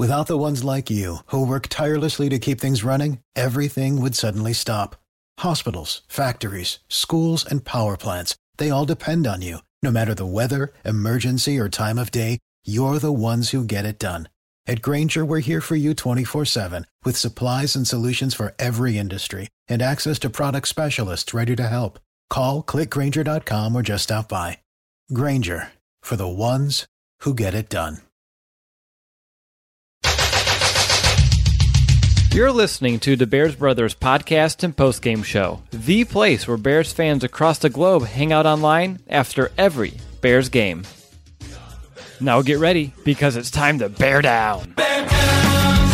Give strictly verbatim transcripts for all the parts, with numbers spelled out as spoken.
Without the ones like you, who work tirelessly to keep things running, everything would suddenly stop. Hospitals, factories, schools, and power plants, they all depend on you. No matter the weather, emergency, or time of day, you're the ones who get it done. At Grainger, we're here for you twenty-four seven, with supplies and solutions for every industry, and access to product specialists ready to help. Call, click Grainger dot com, or just stop by. Grainger, for the ones who get it done. You're listening to the Bears Brothers podcast and postgame show, the place where Bears fans across the globe hang out online after every Bears game. Now get ready, because it's time to bear down. Bear down!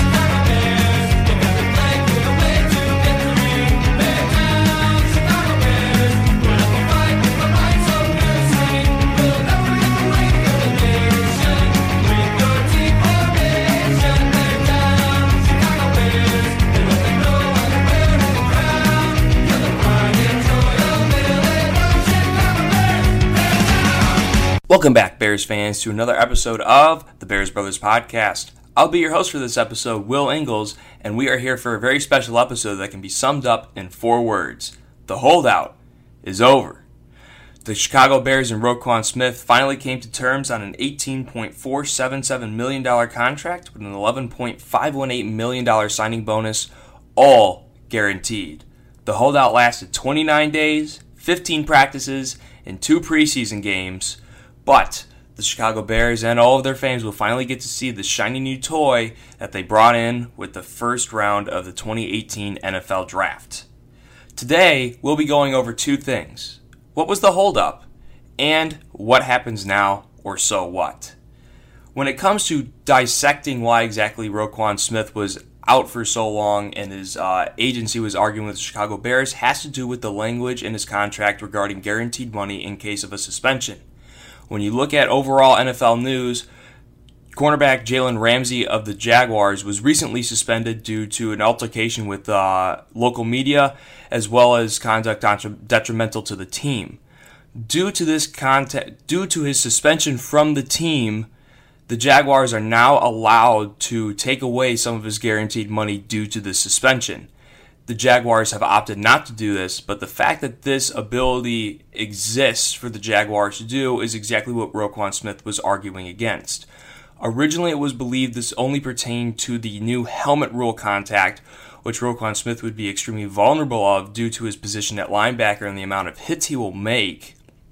Welcome back, Bears fans, to another episode of the Bears Brothers Podcast. I'll be your host for this episode, Will Ingalls, and we are here for a very special episode that can be summed up in four words. The holdout is over. The Chicago Bears and Roquan Smith finally came to terms on an eighteen point four seven seven million dollars contract with an eleven point five one eight million dollars signing bonus, all guaranteed. The holdout lasted twenty-nine days, fifteen practices, and two preseason games. But the Chicago Bears and all of their fans will finally get to see the shiny new toy that they brought in with the first round of the twenty eighteen N F L Draft. Today, we'll be going over two things. What was the holdup? And what happens now, or so what? When it comes to dissecting why exactly Roquan Smith was out for so long and his uh, agency was arguing with the Chicago Bears, has to do with the language in his contract regarding guaranteed money in case of a suspension. When you look at overall N F L news, cornerback Jalen Ramsey of the Jaguars was recently suspended due to an altercation with uh, local media, as well as conduct detrimental to the team. Due to this contact, due to his suspension from the team, the Jaguars are now allowed to take away some of his guaranteed money due to the suspension. The Jaguars have opted not to do this, but the fact that this ability exists for the Jaguars to do is exactly what Roquan Smith was arguing against. Originally, it was believed this only pertained to the new helmet rule contact, which Roquan Smith would be extremely vulnerable of due to his position at linebacker and the amount of hits he will make.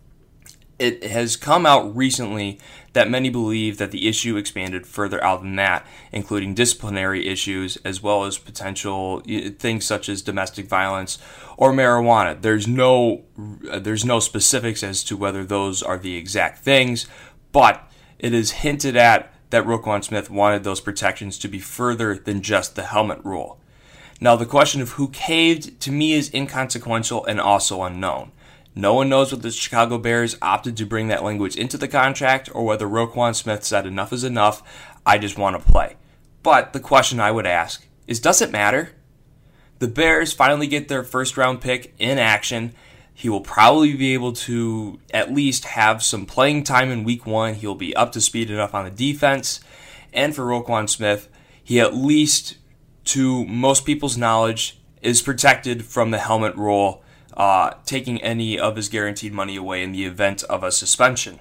It has come out recently that many believe that the issue expanded further out than that, including disciplinary issues as well as potential things such as domestic violence or marijuana. There's no there's no specifics as to whether those are the exact things, but it is hinted at that Roquan Smith wanted those protections to be further than just the helmet rule. Now, the question of who caved to me is inconsequential and also unknown. No one knows whether the Chicago Bears opted to bring that language into the contract or whether Roquan Smith said enough is enough, I just want to play. But the question I would ask is, does it matter? The Bears finally get their first round pick in action. He will probably be able to at least have some playing time in week one. He'll be up to speed enough on the defense. And for Roquan Smith, he at least, to most people's knowledge, is protected from the helmet rule, Uh, taking any of his guaranteed money away in the event of a suspension.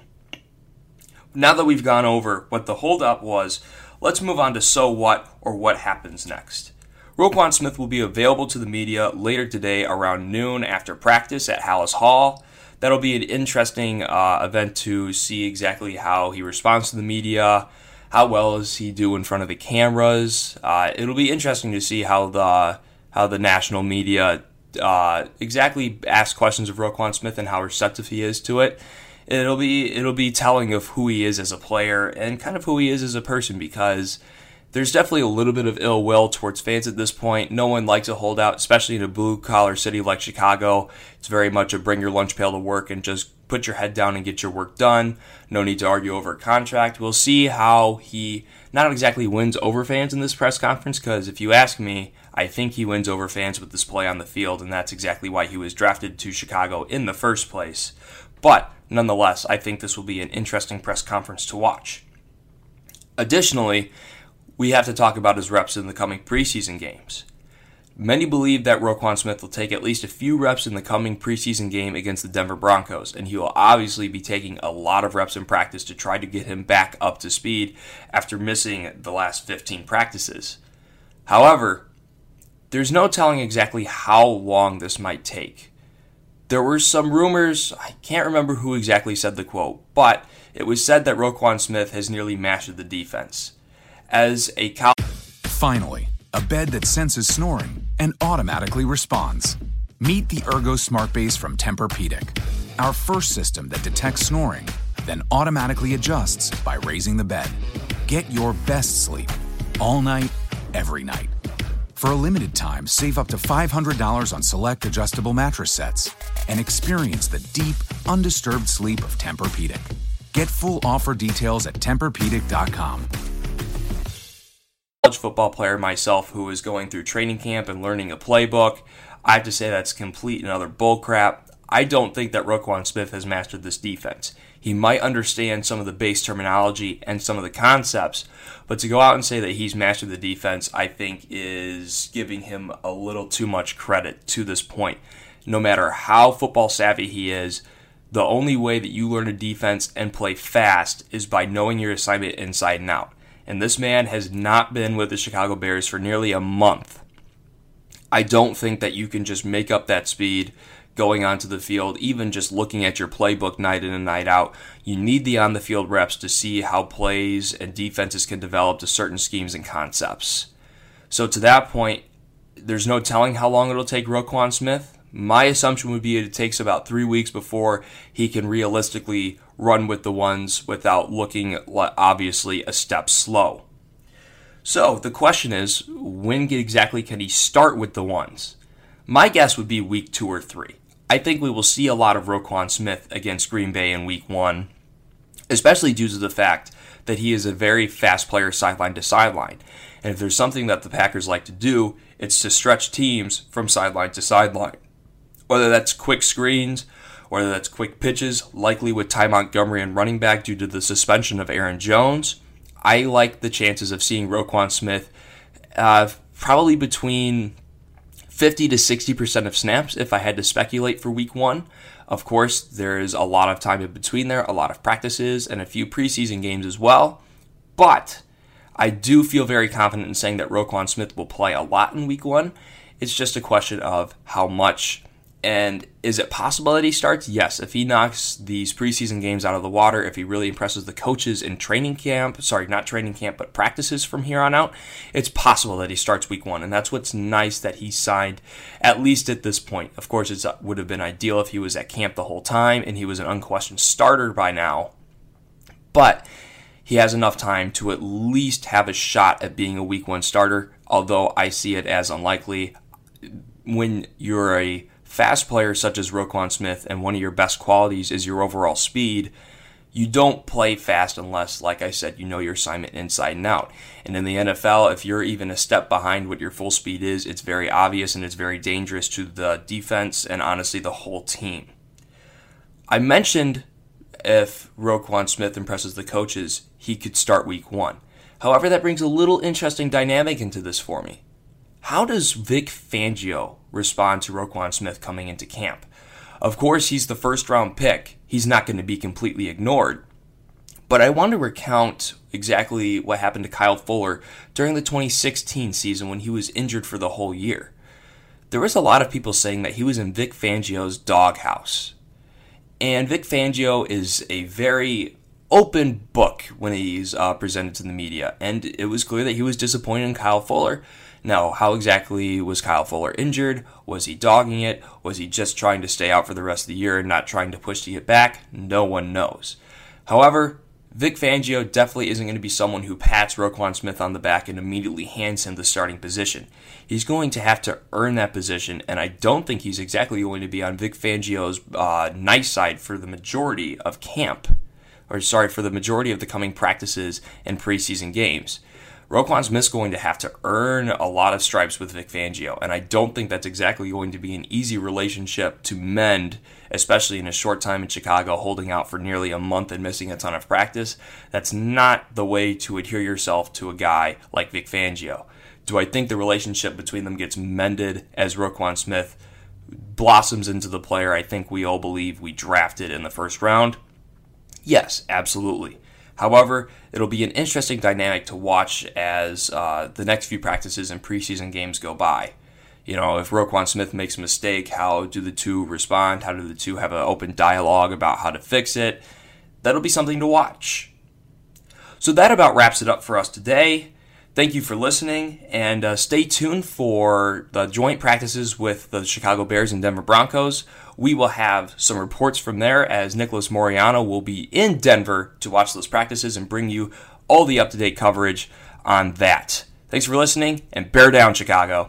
Now that we've gone over what the holdup was, let's move on to so what, or what happens next. Roquan Smith will be available to the media later today around noon after practice at Halas Hall. That'll be an interesting uh, event to see exactly how he responds to the media, how well does he do in front of the cameras. Uh, it'll be interesting to see how the how the national media Uh, exactly ask questions of Roquan Smith and how receptive he is to it. It'll be it'll be telling of who he is as a player and kind of who he is as a person, because there's definitely a little bit of ill will towards fans at this point. No one likes a holdout, especially in a blue-collar city like Chicago. It's very much a bring your lunch pail to work and just put your head down and get your work done. No need to argue over a contract. We'll see how he not exactly wins over fans in this press conference, because if you ask me, I think he wins over fans with this play on the field, and that's exactly why he was drafted to Chicago in the first place. But nonetheless, I think this will be an interesting press conference to watch. Additionally, we have to talk about his reps in the coming preseason games. Many believe that Roquan Smith will take at least a few reps in the coming preseason game against the Denver Broncos, and he will obviously be taking a lot of reps in practice to try to get him back up to speed after missing the last fifteen practices. However, there's no telling exactly how long this might take. There were some rumors, I can't remember who exactly said the quote, but it was said that Roquan Smith has nearly mastered the defense. As a college... Finally, a bed that senses snoring and automatically responds. Meet the Ergo Smart Base from Tempur-Pedic, our first system that detects snoring, then automatically adjusts by raising the bed. Get your best sleep, all night, every night. For a limited time, save up to five hundred dollars on select adjustable mattress sets and experience the deep, undisturbed sleep of Tempur-Pedic. Get full offer details at Tempur Pedic dot com. College football player myself who is going through training camp and learning a playbook, I have to say that's complete and utter bullcrap. I don't think that Roquan Smith has mastered this defense. He might understand some of the base terminology and some of the concepts, but to go out and say that he's mastered the defense, I think is giving him a little too much credit to this point. No matter how football savvy he is, the only way that you learn a defense and play fast is by knowing your assignment inside and out. And this man has not been with the Chicago Bears for nearly a month. I don't think that you can just make up that speed going onto the field, even just looking at your playbook night in and night out. You need the on-the-field reps to see how plays and defenses can develop to certain schemes and concepts. So to that point, there's no telling how long it'll take Roquan Smith. My assumption would be it takes about three weeks before he can realistically run with the ones without looking, obviously, a step slow. So the question is, when exactly can he start with the ones? My guess would be week two or three. I think we will see a lot of Roquan Smith against Green Bay in week one, especially due to the fact that he is a very fast player sideline to sideline. And if there's something that the Packers like to do, it's to stretch teams from sideline to sideline. Whether that's quick screens, whether that's quick pitches, likely with Ty Montgomery and running back due to the suspension of Aaron Jones, I like the chances of seeing Roquan Smith uh, probably between fifty to sixty percent of snaps if I had to speculate for week one. Of course, there is a lot of time in between there, a lot of practices, and a few preseason games as well. But I do feel very confident in saying that Roquan Smith will play a lot in week one. It's just a question of how much. And is it possible that he starts? Yes. If he knocks these preseason games out of the water, if he really impresses the coaches in training camp, sorry, not training camp, but practices from here on out, it's possible that he starts week one. And that's what's nice that he signed, at least at this point. Of course, it would have been ideal if he was at camp the whole time and he was an unquestioned starter by now. But he has enough time to at least have a shot at being a week one starter, although I see it as unlikely. When you're a fast player such as Roquan Smith and one of your best qualities is your overall speed, you don't play fast unless, like I said, you know your assignment inside and out. And in the N F L, if you're even a step behind what your full speed is, it's very obvious and it's very dangerous to the defense and honestly the whole team. I mentioned if Roquan Smith impresses the coaches, he could start week one. However, that brings a little interesting dynamic into this for me. How does Vic Fangio respond to Roquan Smith coming into camp? Of course, he's the first round pick. He's not going to be completely ignored. But I want to recount exactly what happened to Kyle Fuller during the twenty sixteen season when he was injured for the whole year. There was a lot of people saying that he was in Vic Fangio's doghouse. And Vic Fangio is a very open book when he's uh, presented to the media. And it was clear that he was disappointed in Kyle Fuller. Now, how exactly was Kyle Fuller injured? Was he dogging it? Was he just trying to stay out for the rest of the year and not trying to push to get back? No one knows. However, Vic Fangio definitely isn't going to be someone who pats Roquan Smith on the back and immediately hands him the starting position. He's going to have to earn that position, and I don't think he's exactly going to be on Vic Fangio's uh, nice side for the majority of camp, or sorry, for the majority of the coming practices and preseason games. Roquan Smith's going to have to earn a lot of stripes with Vic Fangio, and I don't think that's exactly going to be an easy relationship to mend, especially in a short time in Chicago, holding out for nearly a month and missing a ton of practice. That's not the way to adhere yourself to a guy like Vic Fangio. Do I think the relationship between them gets mended as Roquan Smith blossoms into the player I think we all believe we drafted in the first round? Yes, absolutely. However, it'll be an interesting dynamic to watch as uh, the next few practices and preseason games go by. You know, if Roquan Smith makes a mistake, how do the two respond? How do the two have an open dialogue about how to fix it? That'll be something to watch. So that about wraps it up for us today. Thank you for listening, and uh, stay tuned for the joint practices with the Chicago Bears and Denver Broncos. We will have some reports from there as Nicholas Moreano will be in Denver to watch those practices and bring you all the up-to-date coverage on that. Thanks for listening, and bear down, Chicago.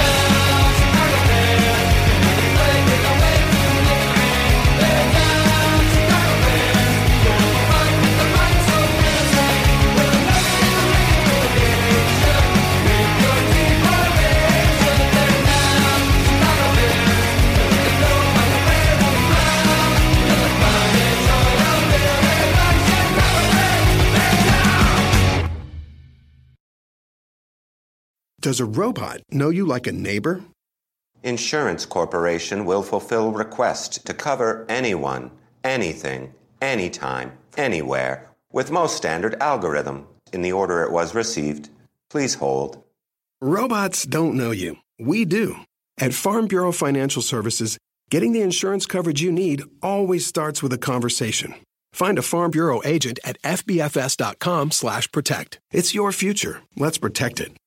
Does a robot know you like a neighbor? Insurance Corporation will fulfill requests to cover anyone, anything, anytime, anywhere, with most standard algorithm in the order it was received. Please hold. Robots don't know you. We do. At Farm Bureau Financial Services, getting the insurance coverage you need always starts with a conversation. Find a Farm Bureau agent at F B F S dot com slash protect. It's your future. Let's protect it.